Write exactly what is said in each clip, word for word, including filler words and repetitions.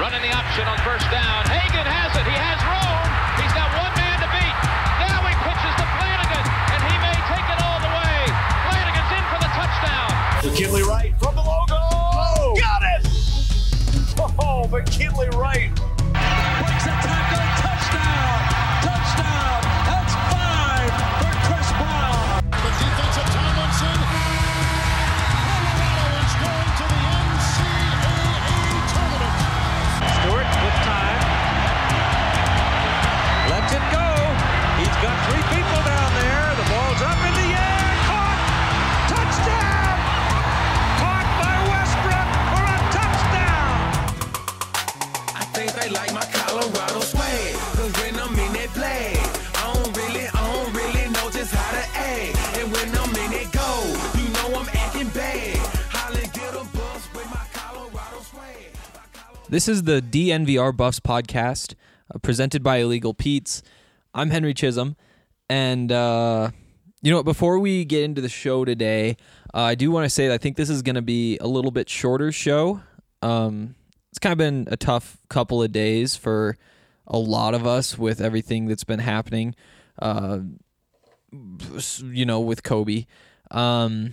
Running the option on first down. Hagan has it. He has room. He's got one man to beat. Now he pitches to Flanagan, and he may take it all the way. Flanagan's in for the touchdown. McKinley Wright from the logo. Oh, got it! Oh, McKinley Wright. Breaks a tackle. Touchdown. Touchdown. That's five for Chris Brown. The defensive Tomlinson. Colorado is going to the N C double A tournament. Stewart with time. Lets it go. He's got three people down there. The ball's up in the air. Caught. Touchdown. Caught by Westbrook for a touchdown. I think they like my Colorado swag. Cause when I'm in that play, I don't really, I don't really know just how to act. And when I'm in it go, you know I'm acting bad. Holly get a bus with my Colorado swag. This is the D N V R Buffs podcast, uh, presented by Illegal Pete's. I'm Henry Chisholm, and uh, you know what? Before we get into the show today, uh, I do want to say that I think this is going to be a little bit shorter show. Um, it's kind of been a tough couple of days for a lot of us with everything that's been happening, uh, you know, with Kobe. Um,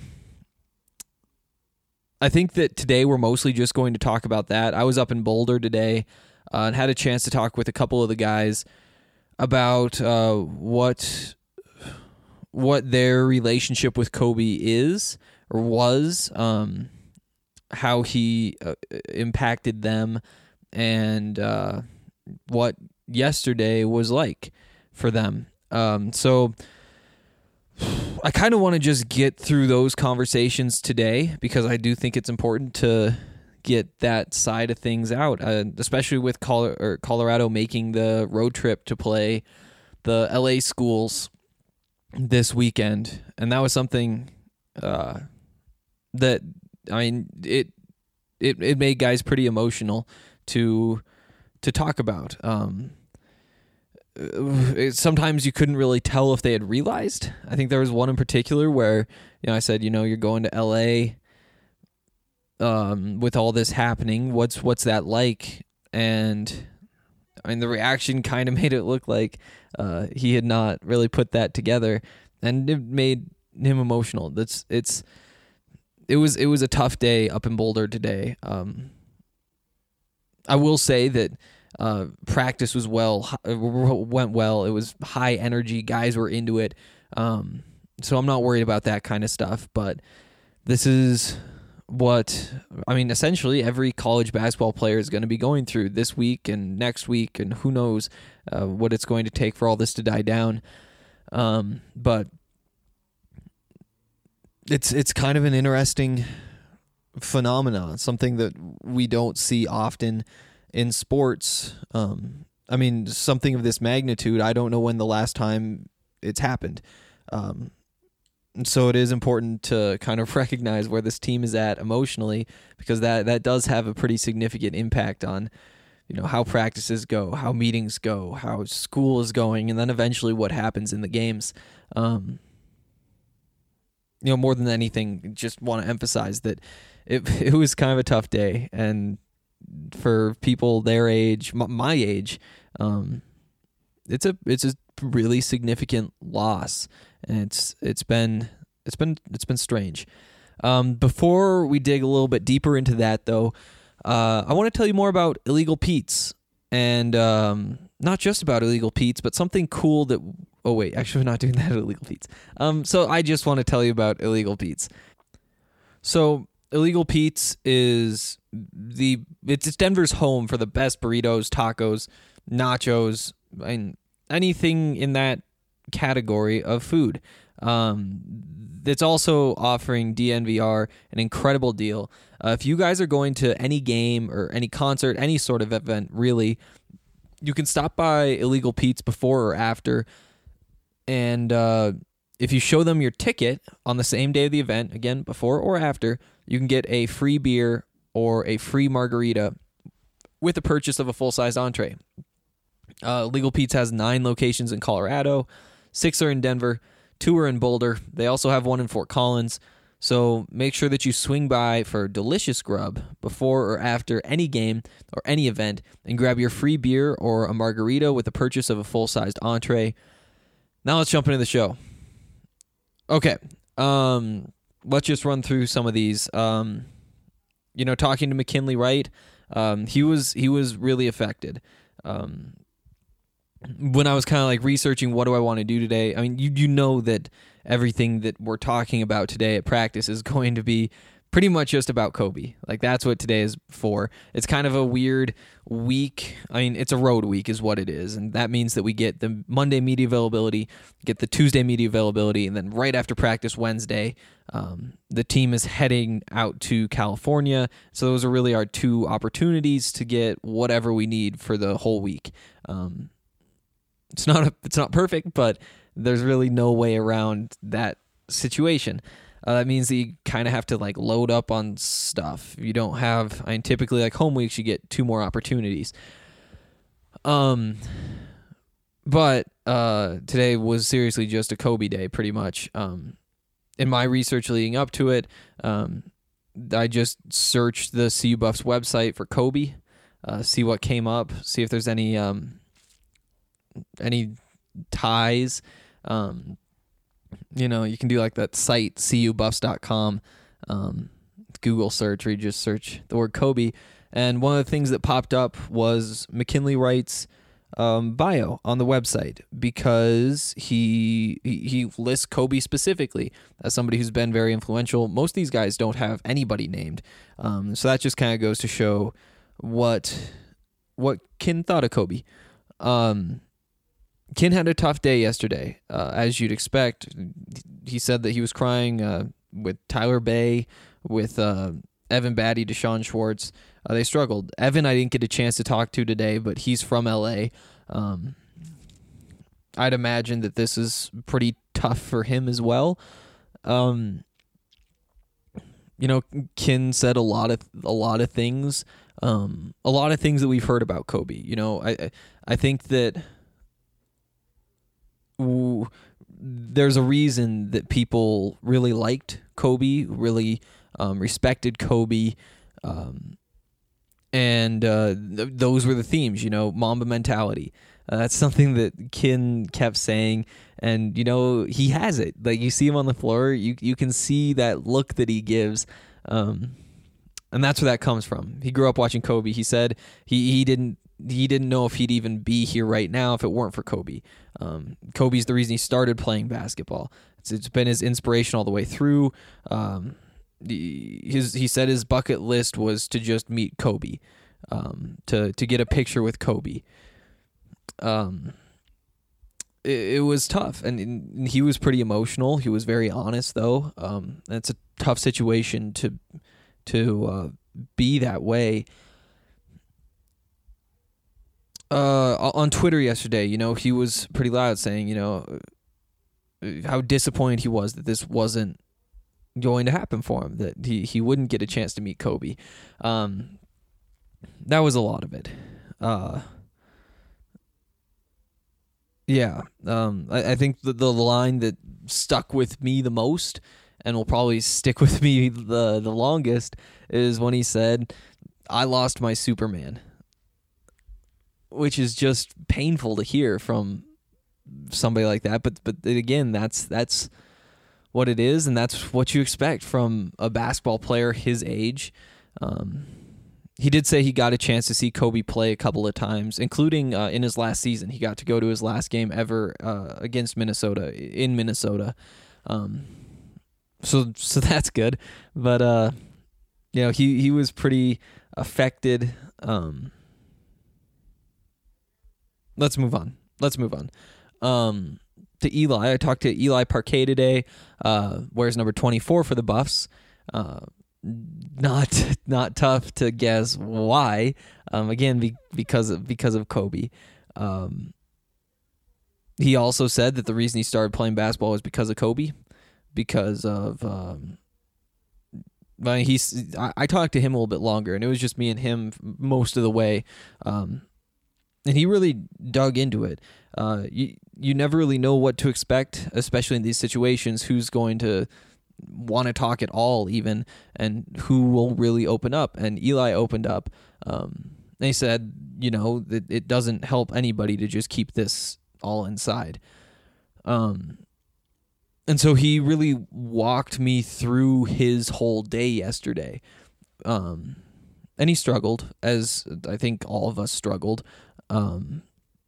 I think that today we're mostly just going to talk about that. I was up in Boulder today uh, and had a chance to talk with a couple of the guys about uh, what what their relationship with Kobe is or was, um, how he uh, impacted them, and uh, what yesterday was like for them. Um, so I kind of want to just get through those conversations today because I do think it's important to get that side of things out, uh, especially with Col- or Colorado making the road trip to play the L A schools this weekend. And that was something uh, that, I mean, it, it it made guys pretty emotional to to talk about. Um, it, sometimes you couldn't really tell if they had realized. I think there was one in particular where, you know, I said, you know, you're going to L A Um, with all this happening, what's what's that like? And I mean, the reaction kind of made it look like uh, he had not really put that together, and it made him emotional. That's it's it was it was a tough day up in Boulder today. Um, I will say that uh, practice was well went well. It was high energy. Guys were into it, um, so I'm not worried about that kind of stuff. But this is what, I mean, essentially every college basketball player is going to be going through this week and next week, and who knows uh, what it's going to take for all this to die down. Um, but it's it's kind of an interesting phenomenon, something that we don't see often in sports. Um, I mean, something of this magnitude, I don't know when the last time it's happened. Um And so it is important to kind of recognize where this team is at emotionally, because that, that does have a pretty significant impact on, you know, how practices go, how meetings go, how school is going, and then eventually what happens in the games. Um, you know, more than anything, just want to emphasize that it it was kind of a tough day, and for people their age, my age, um, it's a it's a really significant loss. And it's it's been it's been it's been strange. Um, before we dig a little bit deeper into that, though, uh, I want to tell you more about Illegal Pete's, and um, not just about Illegal Pete's, but something cool that. Oh wait, actually, we're not doing that at Illegal Pete's. Um, so I just want to tell you about Illegal Pete's. So Illegal Pete's is the it's, it's Denver's home for the best burritos, tacos, nachos, and anything in that category of food. Um, it's also offering D N V R an incredible deal. Uh, if you guys are going to any game or any concert, any sort of event, really, you can stop by Illegal Pete's before or after, and uh, if you show them your ticket on the same day of the event, again, before or after, you can get a free beer or a free margarita with the purchase of a full-size entree. Uh, Illegal Pete's has nine locations in Colorado. Six are in Denver. Two are in Boulder. They also have one in Fort Collins. So make sure that you swing by for delicious grub before or after any game or any event and grab your free beer or a margarita with the purchase of a full-sized entree. Now let's jump into the show. Okay, um, let's just run through some of these. Um, you know, talking to McKinley Wright, um, he was he was really affected. Um, when I was kind of like researching what do I want to do today, I mean, you you know that everything that we're talking about today at practice is going to be pretty much just about Kobe. Like, that's what today is for. It's kind of a weird week. I mean, it's a road week is what it is, and that means that we get the Monday media availability, get the Tuesday media availability, and then right after practice Wednesday, um, the team is heading out to California. So those are really our two opportunities to get whatever we need for the whole week. Um, it's not a, it's not perfect, but there's really no way around that situation. Uh, that means that you kind of have to like load up on stuff. You don't have, I mean, typically like home weeks, you get two more opportunities. Um, but uh, today was seriously just a Kobe day, pretty much. Um, in my research leading up to it, um, I just searched the C U Buffs website for Kobe, uh, see what came up, see if there's any um, any ties. Um, you know, you can do like that site, C U Buffs dot com, um, Google search, where you just search the word Kobe. And one of the things that popped up was McKinley Wright's um, bio on the website, because he, he he lists Kobe specifically as somebody who's been very influential. Most of these guys don't have anybody named. Um, so that just kind of goes to show what, what Ken thought of Kobe. Um, Ken had a tough day yesterday, uh, as you'd expect. He said that he was crying uh, with Tyler Bay, with uh, Evan Batty, Deshaun Schwartz. Uh, they struggled. Evan I didn't get a chance to talk to today, but he's from L A. Um, I'd imagine that this is pretty tough for him as well. Um, you know, Ken said a lot of a lot of things, um, a lot of things that we've heard about Kobe. You know, I I think that there's a reason that people really liked Kobe, really um, respected Kobe, um, and uh, th- those were the themes, you know, Mamba mentality. Uh, that's something that Ken kept saying, and, you know, he has it. Like, you see him on the floor, you you can see that look that he gives, um, and that's where that comes from. He grew up watching Kobe. He said he, he didn't He didn't know if he'd even be here right now if it weren't for Kobe. Um, Kobe's the reason he started playing basketball. It's, it's been his inspiration all the way through. Um, his he said his bucket list was to just meet Kobe, um, to to get a picture with Kobe. Um, it, it was tough, and, and he was pretty emotional. He was very honest, though. Um, it's a tough situation to to uh, be that way. Uh, on Twitter yesterday, you know, he was pretty loud saying, you know, how disappointed he was that this wasn't going to happen for him, that he, he wouldn't get a chance to meet Kobe. Um, that was a lot of it. Uh, yeah, um, I, I think the, the line that stuck with me the most and will probably stick with me the, the longest is when he said, "I lost my Superman," which is just painful to hear from somebody like that. But but again, that's that's what it is, and that's what you expect from a basketball player his age. Um, he did say he got a chance to see Kobe play a couple of times, including uh, in his last season. He got to go to his last game ever uh, against Minnesota, in Minnesota. Um, so so that's good. But, uh, you know, he, he was pretty affected. Um Let's move on. Let's move on. Um, to Eli. I talked to Eli Parquet today, uh, wears number twenty-four for the Buffs. Uh, not not tough to guess why. Um, again, be, because of because of Kobe. Um, he also said that the reason he started playing basketball was because of Kobe, because of. Um, I mean, he's. I, I talked to him a little bit longer, and it was just me and him most of the way. Um, And he really dug into it. Uh, you you never really know what to expect, especially in these situations. Who's going to want to talk at all even, and who will really open up. And Eli opened up. Um, they said, you know, that it doesn't help anybody to just keep this all inside. Um, and so he really walked me through his whole day yesterday. Um, and he struggled, as I think all of us struggled. Um,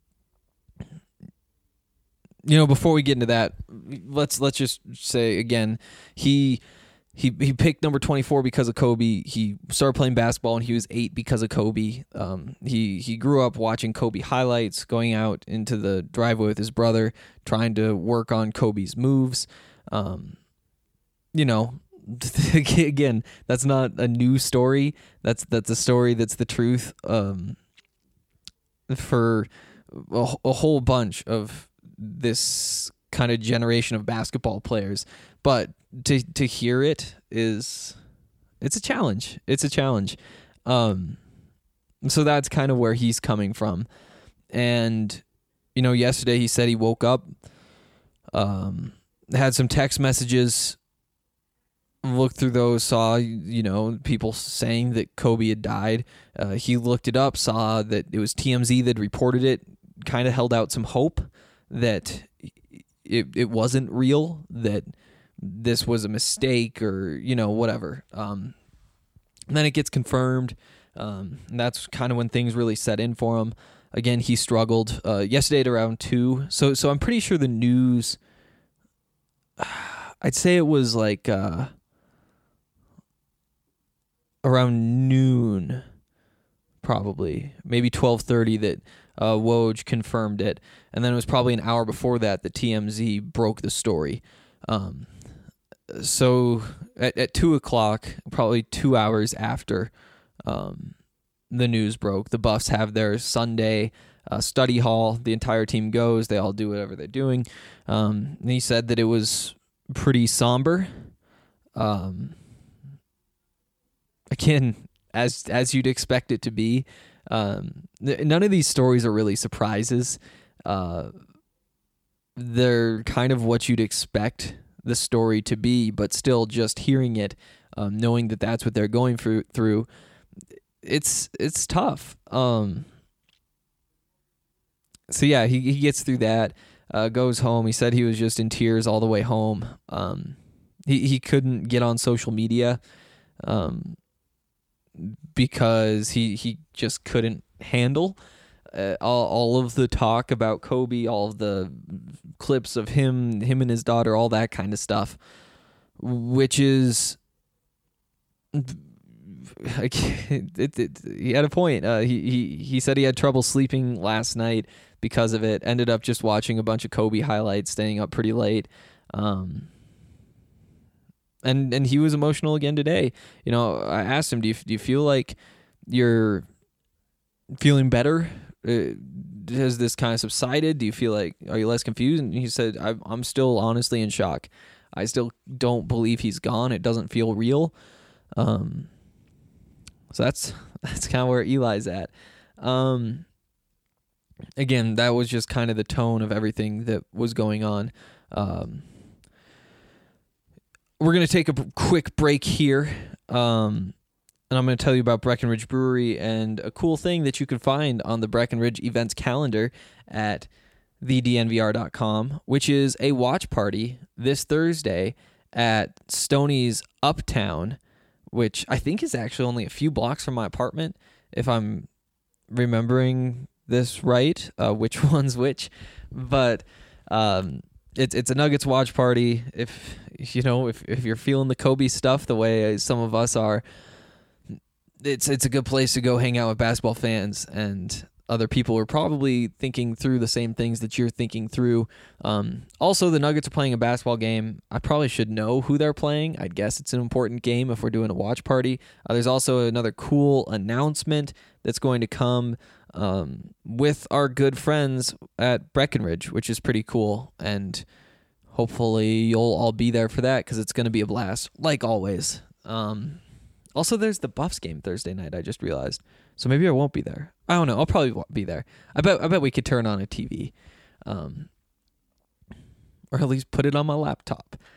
you know, before we get into that, let's let's just say again, he he he picked number twenty-four because of Kobe. He started playing basketball when he was eight because of Kobe. Um, he he grew up watching Kobe highlights, going out into the driveway with his brother, trying to work on Kobe's moves. Um, you know, again, that's not a new story. That's that's a story that's the truth. Um, for a, a whole bunch of this kind of generation of basketball players, but to to hear it is it's a challenge. It's a challenge. Um, so that's kind of where he's coming from. And you know, yesterday he said he woke up, um, had some text messages, looked through those, saw, you know, people saying that Kobe had died. Uh, he looked it up, saw that it was T M Z that reported it, kind of held out some hope that it it wasn't real, that this was a mistake or, you know, whatever. Um, and then it gets confirmed. Um, and that's kind of when things really set in for him. Again, he struggled uh, yesterday at around two. So, so I'm pretty sure the news, I'd say it was like uh, around noon, probably, maybe twelve thirty that uh, Woj confirmed it. And then it was probably an hour before that that T M Z broke the story. Um, so at, at two o'clock, probably two hours after um, the news broke, the Buffs have their Sunday uh, study hall. The entire team goes. They all do whatever they're doing. Um, and he said that it was pretty somber. Um, again, as as you'd expect it to be. Um, none of these stories are really surprises. Uh, they're kind of what you'd expect the story to be, but still just hearing it, um, knowing that that's what they're going through, through it's it's tough. Um, so yeah, he, he gets through that, uh, goes home. He said he was just in tears all the way home. Um, he, he couldn't get on social media, um, because he, he just couldn't handle uh, all, all of the talk about Kobe, all of the clips of him, him and his daughter, all that kind of stuff, which is, it, it, it, he had a point. Uh, he, he, he said he had trouble sleeping last night because of it, ended up just watching a bunch of Kobe highlights, staying up pretty late. Um, And and he was emotional again today. You know, I asked him, do you, do you feel like you're feeling better? Uh, has this kind of subsided? Do you feel like, are you less confused? And he said, I'm, I'm still honestly in shock. I still don't believe he's gone. It doesn't feel real. Um, so that's that's kind of where Eli's at. Um, again, that was just kind of the tone of everything that was going on. Um We're going to take a quick break here, um, and I'm going to tell you about Breckenridge Brewery and a cool thing that you can find on the Breckenridge events calendar at the d n v r dot com, which is a watch party this Thursday at Stoney's Uptown, which I think is actually only a few blocks from my apartment, if I'm remembering this right, uh, which one's which, but... Um, It's it's a Nuggets watch party. If you know if, if you're feeling the Kobe stuff the way some of us are, it's it's a good place to go hang out with basketball fans and other people who are probably thinking through the same things that you're thinking through. Um, also, the Nuggets are playing a basketball game. I probably should know who they're playing. I guess it's an important game if we're doing a watch party. Uh, there's also another cool announcement that's going to come Um, with our good friends at Breckenridge, which is pretty cool, and hopefully you'll all be there for that because it's going to be a blast, like always. Um, also, there's the Buffs game Thursday night, I just realized, so maybe I won't be there. I don't know, I'll probably be there. I bet I bet we could turn on a T V, um, or at least put it on my laptop.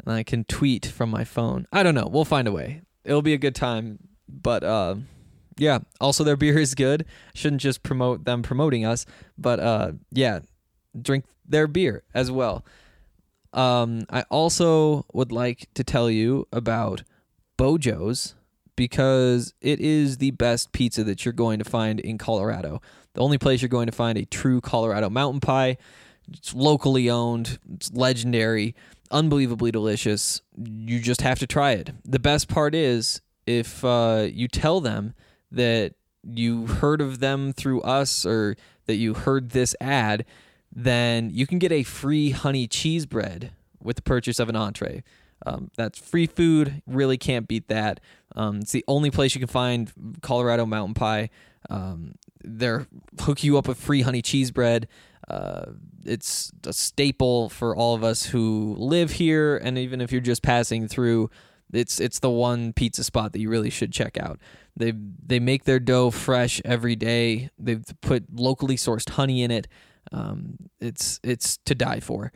and I can tweet from my phone. I don't know. We'll find a way. It'll be a good time. But uh, yeah, also their beer is good. Shouldn't just promote them promoting us, but uh, yeah, drink their beer as well. Um, I also would like to tell you about Bojo's, because it is the best pizza that you're going to find in Colorado. The only place you're going to find a true Colorado mountain pie. It's locally owned. It's legendary. Unbelievably delicious. You just have to try it. The best part is if uh, you tell them that you heard of them through us or that you heard this ad, then you can get a free honey cheese bread with the purchase of an entree. Um, that's free food. Really can't beat that. Um, it's the only place you can find Colorado mountain pie. Um, they're hook you up with free honey cheese bread. Uh, it's a staple for all of us who live here, and even if you're just passing through, it's it's the one pizza spot that you really should check out. They they make their dough fresh every day. They've put locally sourced honey in it. Um, it's it's to die for.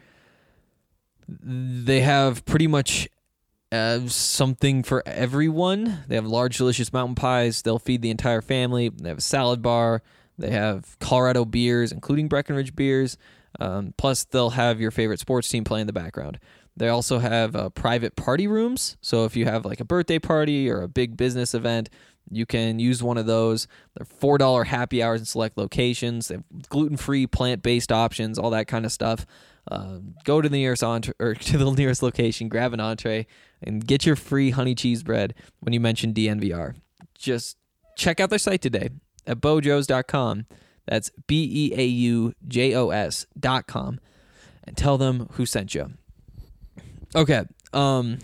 They have pretty much uh, something for everyone. They have large, delicious mountain pies. They'll feed the entire family. They have a salad bar. They have Colorado beers, including Breckenridge beers. Um, plus, they'll have your favorite sports team play in the background. They also have uh, private party rooms. So if you have like a birthday party or a big business event, you can use one of those. They're four dollars happy hours in select locations. They have gluten-free, plant-based options, all that kind of stuff. Uh, go to the nearest entre- or to the nearest location, grab an entree, and get your free honey cheese bread when you mention D N V R. Just check out their site today at bojos dot com. That's B E A U J O S dot com, and tell them who sent you. Okay, um,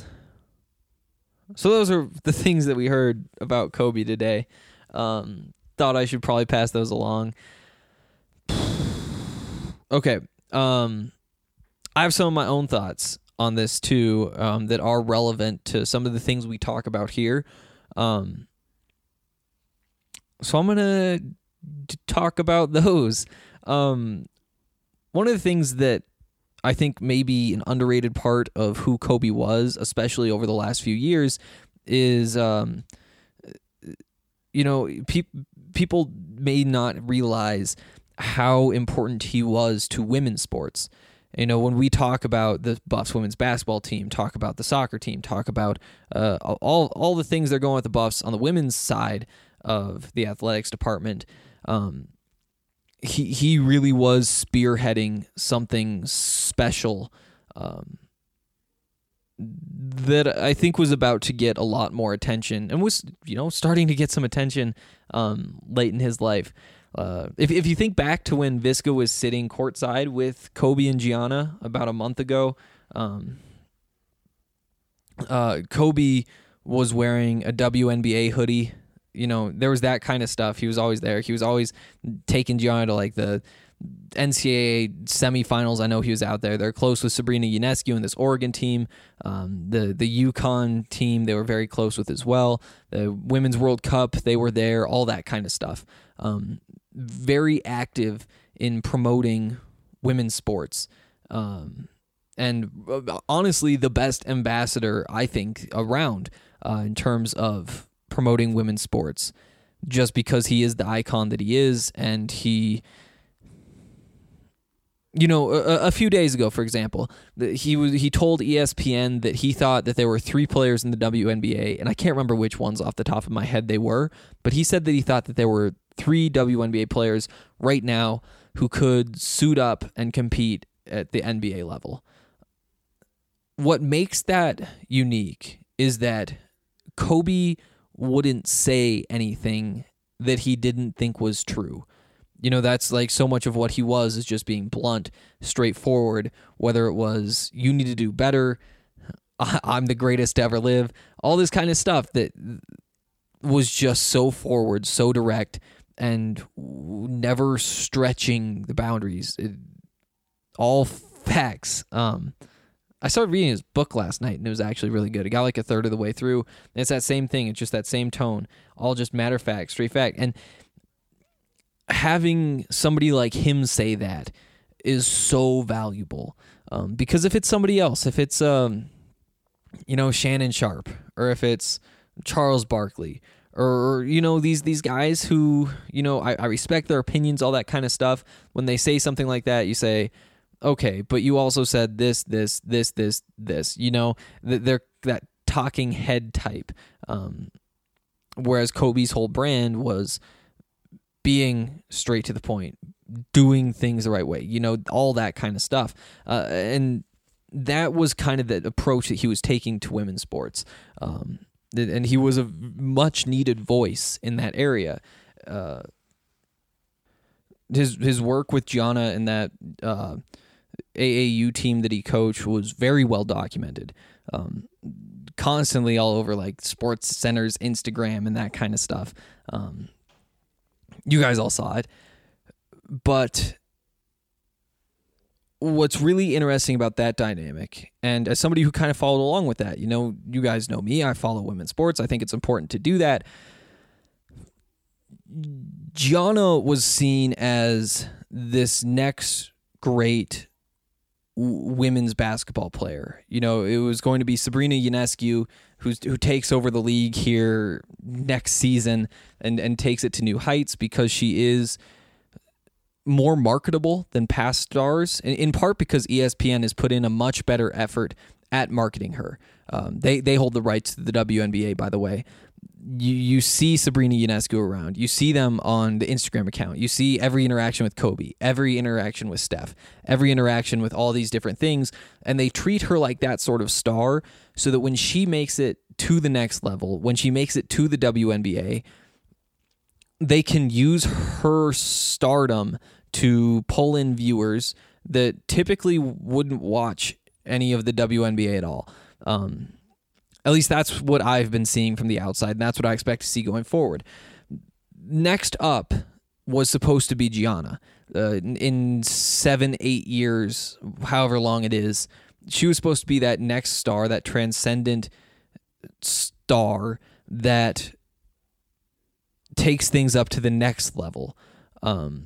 so those are the things that we heard about Kobe today. Um, thought I should probably pass those along. Okay, um, I have some of my own thoughts on this too, um, that are relevant to some of the things we talk about here. Um, so I'm gonna d- talk about those. Um, one of the things that I think maybe an underrated part of who Kobe was, especially over the last few years, is, um, you know, pe- people may not realize how important he was to women's sports. You know, when we talk about the Buffs women's basketball team, talk about the soccer team, talk about uh, all all the things that are going with the Buffs on the women's side of the athletics department, um, he he really was spearheading something special um, that I think was about to get a lot more attention and was, you know, starting to get some attention um, late in his life. Uh, if if you think back to when Visca was sitting courtside with Kobe and Gianna about a month ago, um, uh, Kobe was wearing a W N B A hoodie. You know, there was that kind of stuff. He was always there. He was always taking Gianna to like the N C double A semifinals. I know he was out there. They're close with Sabrina Ionescu and this Oregon team. Um, the the UConn team they were very close with as well. The Women's World Cup, they were there. All that kind of stuff. Um, very active in promoting women's sports. Um, and honestly, the best ambassador, I think, around uh, in terms of promoting women's sports, just because he is the icon that he is. And he, you know, a, a few days ago, for example, he was he told E S P N that he thought that there were three players in the W N B A, and I can't remember which ones off the top of my head they were, but he said that he thought that there were three W N B A players right now who could suit up and compete at the N B A level. What makes that unique is that Kobe wouldn't say anything that he didn't think was true. You know, that's like so much of what he was is just being blunt, straightforward, whether it was you need to do better, I'm the greatest to ever live, all this kind of stuff that was just so forward, so direct, and never stretching the boundaries. It, all facts. Um, I started reading his book last night, and it was actually really good. It got like a third of the way through, and it's that same thing. It's just that same tone, all just matter of fact, straight fact. And having somebody like him say that is so valuable. Um, because if it's somebody else, if it's um, you know, Shannon Sharp, or if it's Charles Barkley, or, you know, these these guys who, you know, I, I respect their opinions, all that kind of stuff. When they say something like that, you say, okay, but you also said this, this, this, this, this, you know, they're that talking head type. Um, whereas Kobe's whole brand was being straight to the point, doing things the right way, you know, all that kind of stuff. Uh, and that was kind of the approach that he was taking to women's sports. Um, and he was a much needed voice in that area. Uh, his his work with Gianna and that uh, A A U team that he coached was very well documented. Um, constantly all over like Sports Center's Instagram and that kind of stuff. Um, you guys all saw it. But what's really interesting about that dynamic, and as somebody who kind of followed along with that, you know, you guys know me, I follow women's sports. I think it's important to do that. Gianna was seen as this next great w- women's basketball player. You know, it was going to be Sabrina Ionescu, who's, who takes over the league here next season and, and takes it to new heights because she is more marketable than past stars, in part because E S P N has put in a much better effort at marketing her. Um, they they hold the rights to the W N B A, by the way. You you see Sabrina Ionescu around. You see them on the Instagram account. You see every interaction with Kobe, every interaction with Steph, every interaction with all these different things, and they treat her like that sort of star so that when she makes it to the next level, when she makes it to the W N B A, they can use her stardom to pull in viewers that typically wouldn't watch any of the W N B A at all. Um, at least that's what I've been seeing from the outside, and that's what I expect to see going forward. Next up was supposed to be Gianna. Uh, in seven, eight years, however long it is, she was supposed to be that next star, that transcendent star that takes things up to the next level. Um,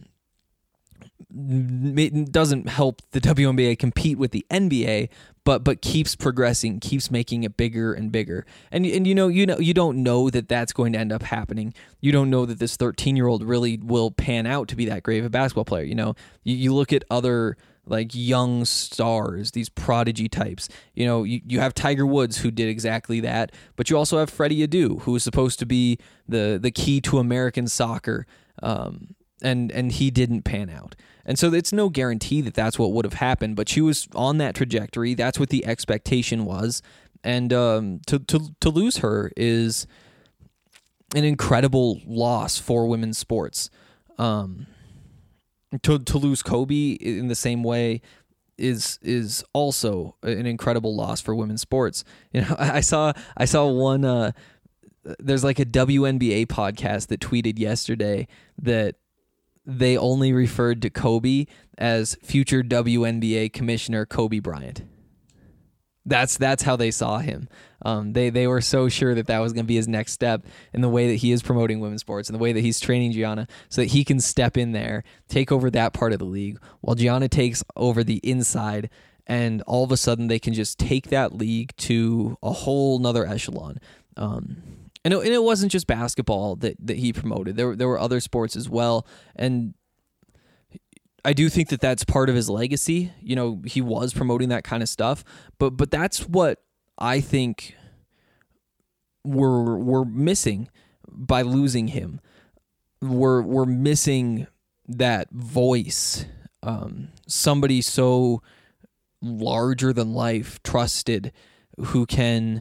it doesn't help the W N B A compete with the N B A, but but keeps progressing, keeps making it bigger and bigger. And and you know you know you don't know that that's going to end up happening. You don't know that this thirteen-year-old really will pan out to be that great of a basketball player. You know, you, you look at other like young stars, these prodigy types. You know, you, you have Tiger Woods, who did exactly that, but you also have Freddie Adu, who was supposed to be the the key to American soccer, um, and and he didn't pan out. And so it's no guarantee that that's what would have happened, but she was on that trajectory. That's what the expectation was, and um, to to to lose her is an incredible loss for women's sports. Um, To to lose Kobe in the same way is is also an incredible loss for women's sports. You know, I saw I saw one. Uh, there's like a W N B A podcast that tweeted yesterday that they only referred to Kobe as future W N B A commissioner Kobe Bryant. That's that's how they saw him. Um, they they were so sure that that was going to be his next step in the way that he is promoting women's sports and the way that he's training Gianna, so that he can step in there, take over that part of the league, while Gianna takes over the inside, and all of a sudden they can just take that league to a whole nother echelon. Um, and it, and it wasn't just basketball that that he promoted. There there were other sports as well, and I do think that that's part of his legacy. You know, he was promoting that kind of stuff, but but that's what I think we're we're missing by losing him. We're we're missing that voice, um, somebody so larger than life, trusted, who can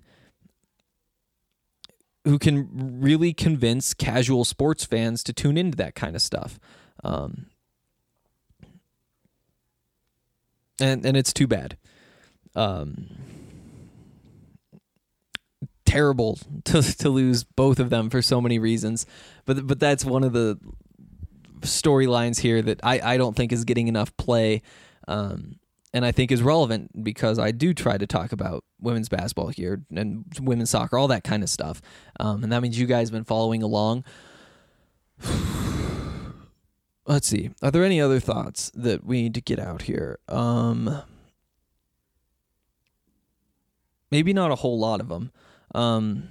who can really convince casual sports fans to tune into that kind of stuff. Um, And and it's too bad. Um, terrible to to lose both of them for so many reasons. But but that's one of the storylines here that I, I don't think is getting enough play. Um, and I think is relevant because I do try to talk about women's basketball here and women's soccer, all that kind of stuff. Um, and that means you guys have been following along. Let's see. Are there any other thoughts that we need to get out here? Um, maybe not a whole lot of them. Um,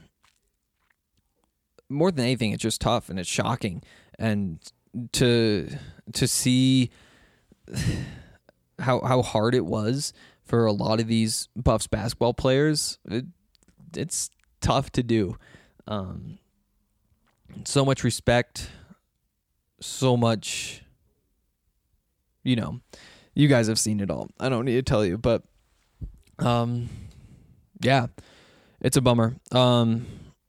more than anything, it's just tough and it's shocking. And to to see how how hard it was for a lot of these Buffs basketball players, it, it's tough to do. Um, so much respect, so much, you know, you guys have seen it all. I don't need to tell you, but um, yeah, it's a bummer. Um,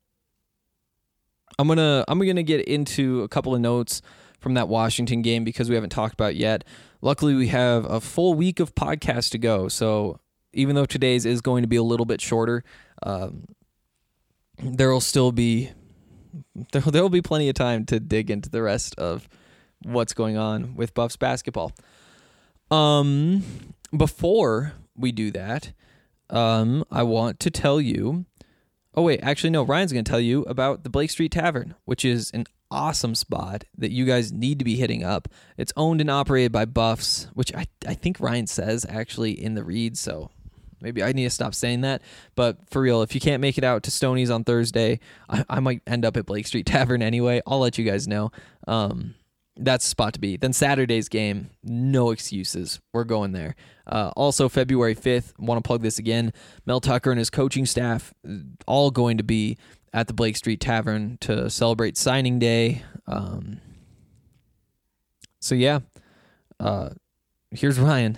I'm gonna I'm gonna get into a couple of notes from that Washington game because we haven't talked about it yet. Luckily, we have a full week of podcasts to go, so even though today's is going to be a little bit shorter, um, there will still be there there will be plenty of time to dig into the rest of what's going on with Buffs basketball. Um, before we do that, um, I want to tell you. Oh wait, actually no, Ryan's going to tell you about the Blake Street Tavern, which is an awesome spot that you guys need to be hitting up. It's owned and operated by Buffs, which I I think Ryan says actually in the read, so maybe I need to stop saying that. But for real, if you can't make it out to Stoney's on Thursday, I, I might end up at Blake Street Tavern anyway. I'll let you guys know. Um, that's the spot to be. Then Saturday's game, no excuses. We're going there. Uh, also, February fifth, want to plug this again, Mel Tucker and his coaching staff all going to be at the Blake Street Tavern to celebrate signing day. Um, so, yeah, uh, here's Ryan.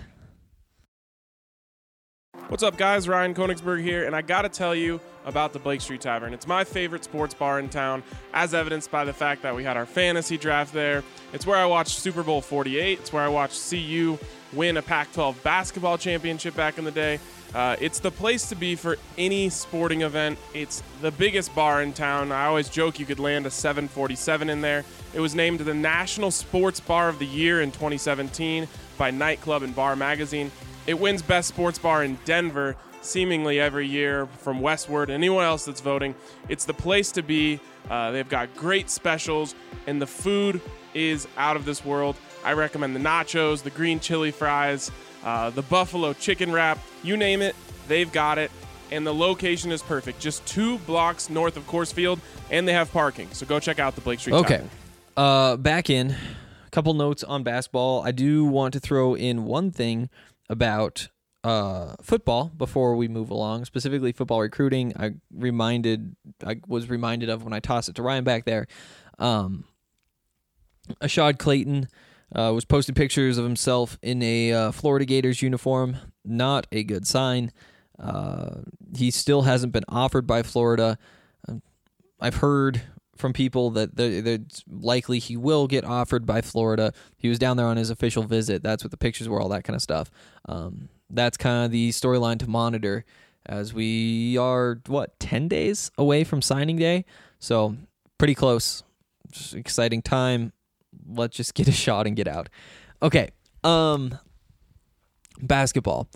What's up, guys? Ryan Konigsberg here, and I gotta tell you about the Blake Street Tavern. It's my favorite sports bar in town, as evidenced by the fact that we had our fantasy draft there. It's where I watched Super Bowl forty-eight. It's where I watched C U win a Pac twelve basketball championship back in the day. Uh, it's the place to be for any sporting event. It's the biggest bar in town. I always joke you could land a seven forty-seven in there. It was named the National Sports Bar of the Year in twenty seventeen by Nightclub and Bar Magazine. It wins Best Sports Bar in Denver seemingly every year from Westward. Anyone else that's voting, it's the place to be. Uh, they've got great specials, and the food is out of this world. I recommend the nachos, the green chili fries, uh, the buffalo chicken wrap. You name it, they've got it. And the location is perfect. Just two blocks north of Coors Field, and they have parking. So go check out the Blake Street Okay. Tavern. Uh, back in. A couple notes on basketball. I do want to throw in one thing about uh, football before we move along, specifically football recruiting. I reminded, I was reminded of when I tossed it to Ryan back there. Um, Ashad Clayton uh, was posting pictures of himself in a uh, Florida Gators uniform. Not a good sign. Uh, he still hasn't been offered by Florida. I've heard from people that it's likely he will get offered by Florida. He was down there on his official visit. That's what the pictures were, all that kind of stuff. Um, that's kind of the storyline to monitor as we are, what, ten days away from signing day? So pretty close. Just exciting time. Let's just get a shot and get out. Okay. Um, basketball.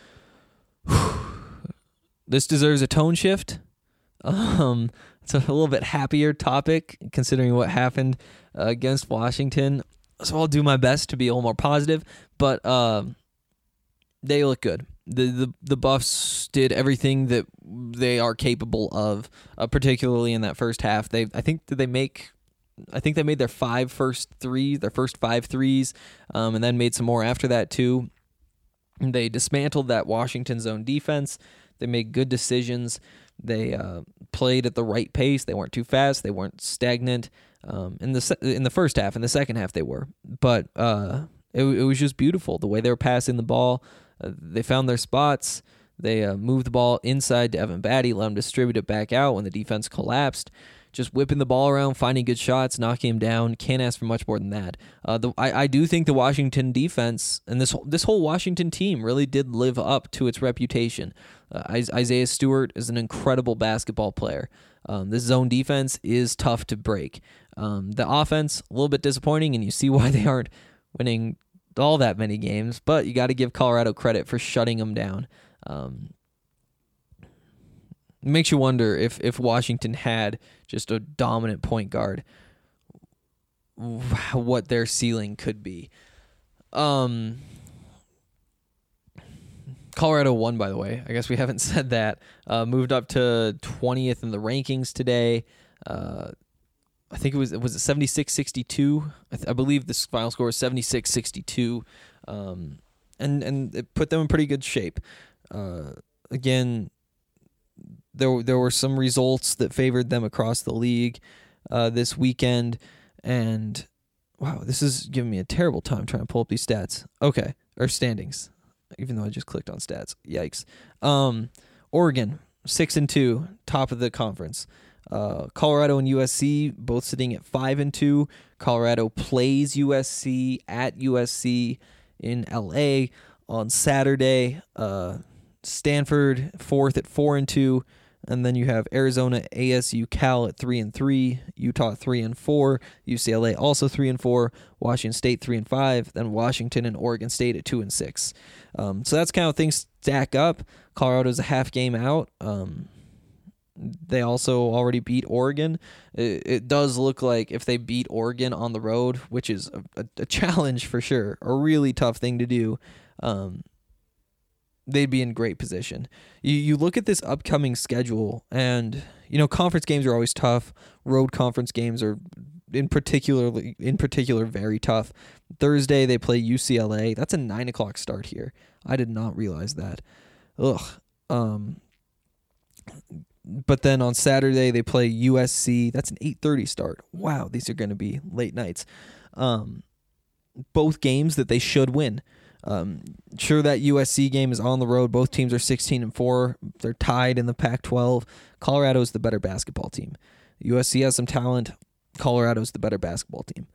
This deserves a tone shift. Um, it's a little bit happier topic considering what happened uh, against Washington. So I'll do my best to be a little more positive, but uh, they look good. The, the the Buffs did everything that they are capable of, uh, particularly in that first half. They I think did they make I think they made their five first threes, their first five threes, um, and then made some more after that too. They dismantled that Washington zone defense. They made good decisions. They uh, played at the right pace. They weren't too fast. They weren't stagnant. Um, in the se- in the first half, in the second half, they were. But uh, it, it was just beautiful the way they were passing the ball. Uh, they found their spots. They uh, moved the ball inside to Evan Batty, let him distribute it back out when the defense collapsed. Just whipping the ball around, finding good shots, knocking him down. Can't ask for much more than that. Uh, the, I, I do think the Washington defense and this this whole Washington team really did live up to its reputation. Uh, Isaiah Stewart is an incredible basketball player. Um, this zone defense is tough to break. Um, the offense, a little bit disappointing, and you see why they aren't winning all that many games, but you got to give Colorado credit for shutting them down. Um, it makes you wonder if, if Washington had just a dominant point guard, what their ceiling could be. Um, Colorado won, by the way. I guess we haven't said that. Uh, moved up to twentieth in the rankings today. Uh, I think it was was it seventy-six sixty-two. I, th- I believe this final score was seventy-six sixty-two, um, and and it put them in pretty good shape. Uh, again, there there were some results that favored them across the league uh, this weekend, and wow, this is giving me a terrible time trying to pull up these stats. Okay, or standings. Even though I just clicked on stats. Yikes. Um, Oregon, six and two, top of the conference. Uh, Colorado and U S C both sitting at five and two. Colorado plays U S C at U S C in L A on Saturday. Uh, Stanford fourth at four and two. And then you have Arizona, A S U, Cal at three and three, Utah three and four, U C L A also three and four, Washington State three and five, then Washington and Oregon State at two and six. Um, so that's kind of things stack up. Colorado's a half game out. Um, they also already beat Oregon. It, it does look like if they beat Oregon on the road, which is a, a, a challenge for sure, a really tough thing to do. Um, they'd be in great position. You you look at this upcoming schedule, and you know conference games are always tough. Road conference games are in particular in particular very tough. Thursday they play U C L A. That's a nine o'clock start here. I did not realize that. Ugh. Um. But then on Saturday they play U S C. That's an eight thirty start. Wow, these are going to be late nights. Um, both games that they should win. Um, sure, that U S C game is on the road. Both teams are sixteen and four. They're tied in the Pac twelve. Colorado's the better basketball team. U S C has some talent. Colorado's the better basketball team.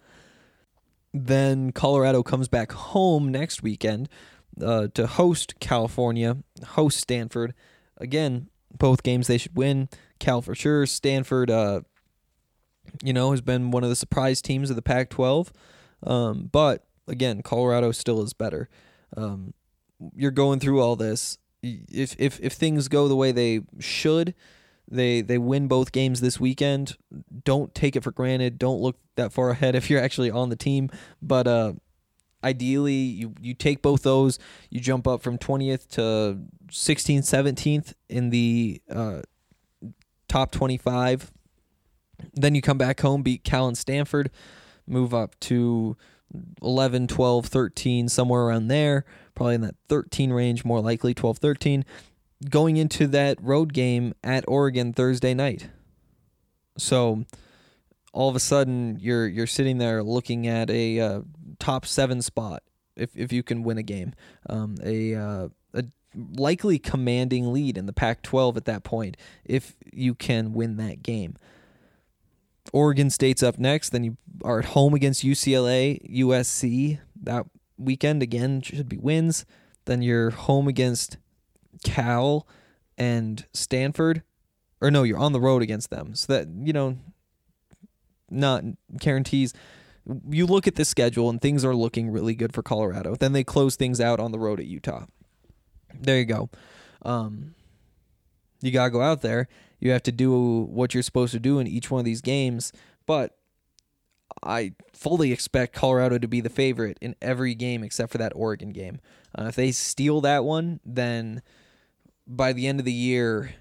Then Colorado comes back home next weekend uh, to host California, host Stanford. Again, both games they should win. Cal for sure. Stanford, uh, you know, has been one of the surprise teams of the Pac twelve. Um, but again, Colorado still is better. Um, you're going through all this. If if if things go the way they should, they they win both games this weekend. Don't take it for granted. Don't look that far ahead if you're actually on the team. But uh, ideally, you, you take both those. You jump up from twentieth to sixteenth, seventeenth in the uh, top twenty-five. Then you come back home, beat Cal and Stanford, move up to eleven, twelve, thirteen, somewhere around there, probably in that thirteen range, more likely twelve, thirteen, going into that road game at Oregon Thursday night. So all of a sudden you're you're sitting there looking at a uh, top seven spot if if you can win a game, um, a uh, a likely commanding lead in the Pac twelve at that point if you can win that game. Oregon State's up next. Then you are at home against U C L A, U S C. That weekend, again, should be wins. Then you're home against Cal and Stanford. Or no, you're on the road against them. So that, you know, not guarantees. You look at the schedule and things are looking really good for Colorado. Then they close things out on the road at Utah. There you go. Um, you got to go out there. You have to do what you're supposed to do in each one of these games, but I fully expect Colorado to be the favorite in every game except for that Oregon game. Uh, if they steal that one, then by the end of the year,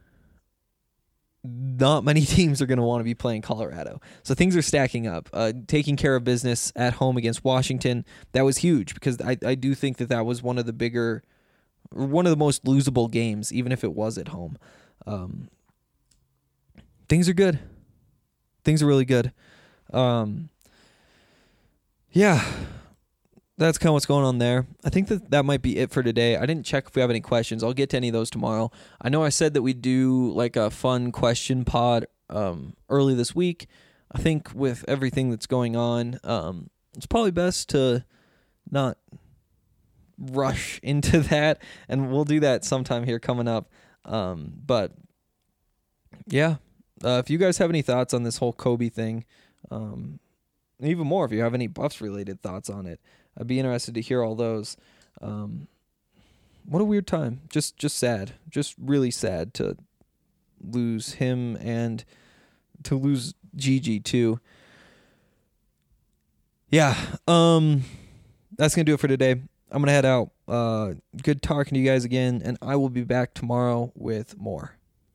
not many teams are going to want to be playing Colorado. So things are stacking up. Uh, taking care of business at home against Washington, that was huge because I, I do think that that was one of the bigger, one of the most losable games, even if it was at home. Um, things are good. Things are really good. Um, yeah, that's kind of what's going on there. I think that that might be it for today. I didn't check if we have any questions. I'll get to any of those tomorrow. I know I said that we'd do like a fun question pod um, early this week. I think with everything that's going on, um, it's probably best to not rush into that, and we'll do that sometime here coming up. Um, but yeah, uh, if you guys have any thoughts on this whole Kobe thing, um, even more if you have any Buffs related thoughts on it, I'd be interested to hear all those. Um, what a weird time. Just, just sad. Just really sad to lose him and to lose Gigi too. Yeah. Um, that's going to do it for today. I'm going to head out. Uh, good talking to you guys again, and I will be back tomorrow with more.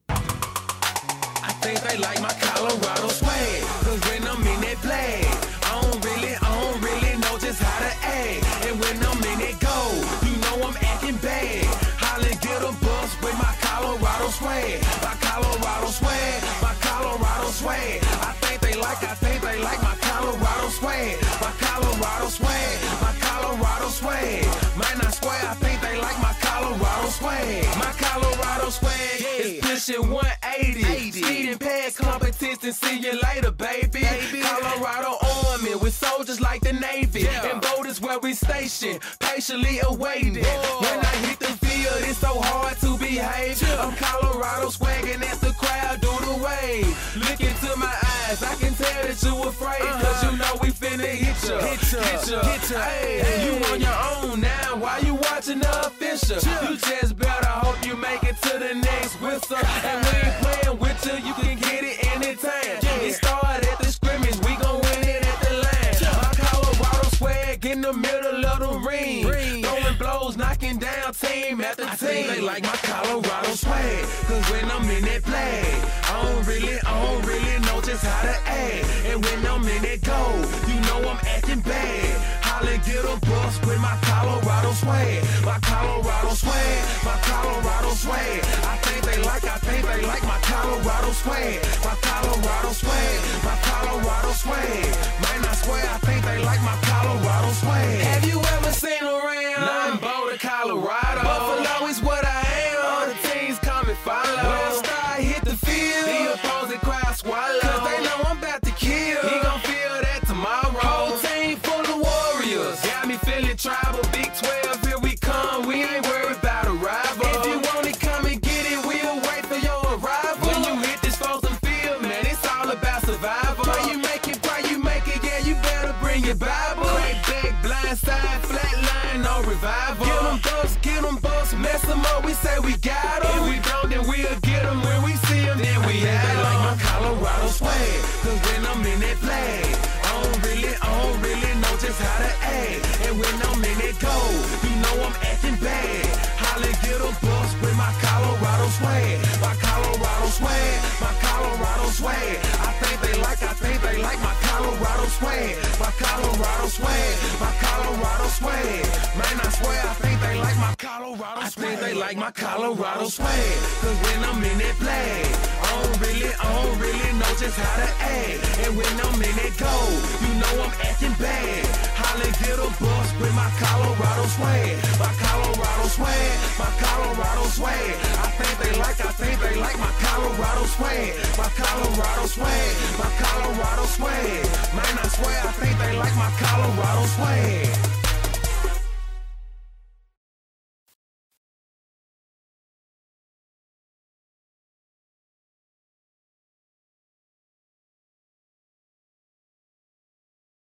I think they like my Colorado swag, cause when I'm in that play, I don't really, I don't really know just how to act. And when I'm in that go, you know I'm acting bad. Holla, get a bus with my Colorado swag, my Colorado swag, my Colorado swag. I think they like, I think they like my Colorado swag, my Colorado swag, my Colorado swag. Man, I swear, I think they like my Colorado swag, my Colorado swag is pushing one eighty. Speeding past competition, see you later, baby. baby. Colorado Army with soldiers like the Navy. Yeah. And boat is where we station, patiently awaiting. Whoa. When I hit the field, it's so hard to behave. Yeah. I'm Colorado swagging as the crowd do the wave. Look into my eyes, I can tell that you afraid. Uh-huh. Cause you know we finna hit ya, hit ya, hit ya. Hit ya. Hey, hey. You on your own now, why you watching the official? Yeah. You just better hope you make it to the next whistle. And we ain't playing with you, you can get it anytime. Yeah. It started at the scrimmage, we gon' win it at the line. Yeah. My Colorado swag in the middle of the ring. ring. Throwing blows, knocking down team after I team. Think they like my Colorado swag, cause when I'm in that play, I don't really, I don't really know just how to act. And when I'm in that go, you know I'm acting bad. Holla, get a bus with my Colorado swag, my Colorado swag, my Colorado swag. I think they like, I think they like my Colorado swag, my Colorado swag, my Colorado swag. Man, I swear, I think they like my Colorado swag. Have you ever seen around? Nothing but Colorado. Buffalo is what I am. All the teams come and follow. When a star hit the field, the opposing crowd swallow. Cause they know I'm about to kill. He gon' feel that tomorrow. Whole team full of warriors. Got me feeling tribal. Big twelve, here we come. We ain't worried about a rival. If you want it, come and get it. We'll wait for your arrival. When you hit this frozen field, man, it's all about survival. Pray you make it, pray you make it. Yeah, you better bring your Bible. Crack back, blind side, flat line, no revival. Get them bucks, get them bucks, mess them up. We say we got them. If we don't, then we'll get them. When we see them, then we have them. They like my Colorado swag, cause when I'm in that play, I don't really, I don't really know just how to act. And when I'm in that go, you know I'm acting bad. Holla, get a bus with my Colorado swag, my Colorado swag, my Colorado swag. I think they like, I think they like my Colorado swag, my Colorado swag, my Colorado swag. Man, I swear, I think they like my Colorado swag. I think they like my Colorado swag, cause when I'm in that play, I don't really, I don't really know just how to act. And when I'm in that go, you know I'm acting bad. Holla, get a bus with my Colorado swag, my Colorado swag, my Colorado swag. I think they like, I think they like my Colorado swag, my Colorado swag, my Colorado swag. Man, I swear, I think they like my Colorado swag.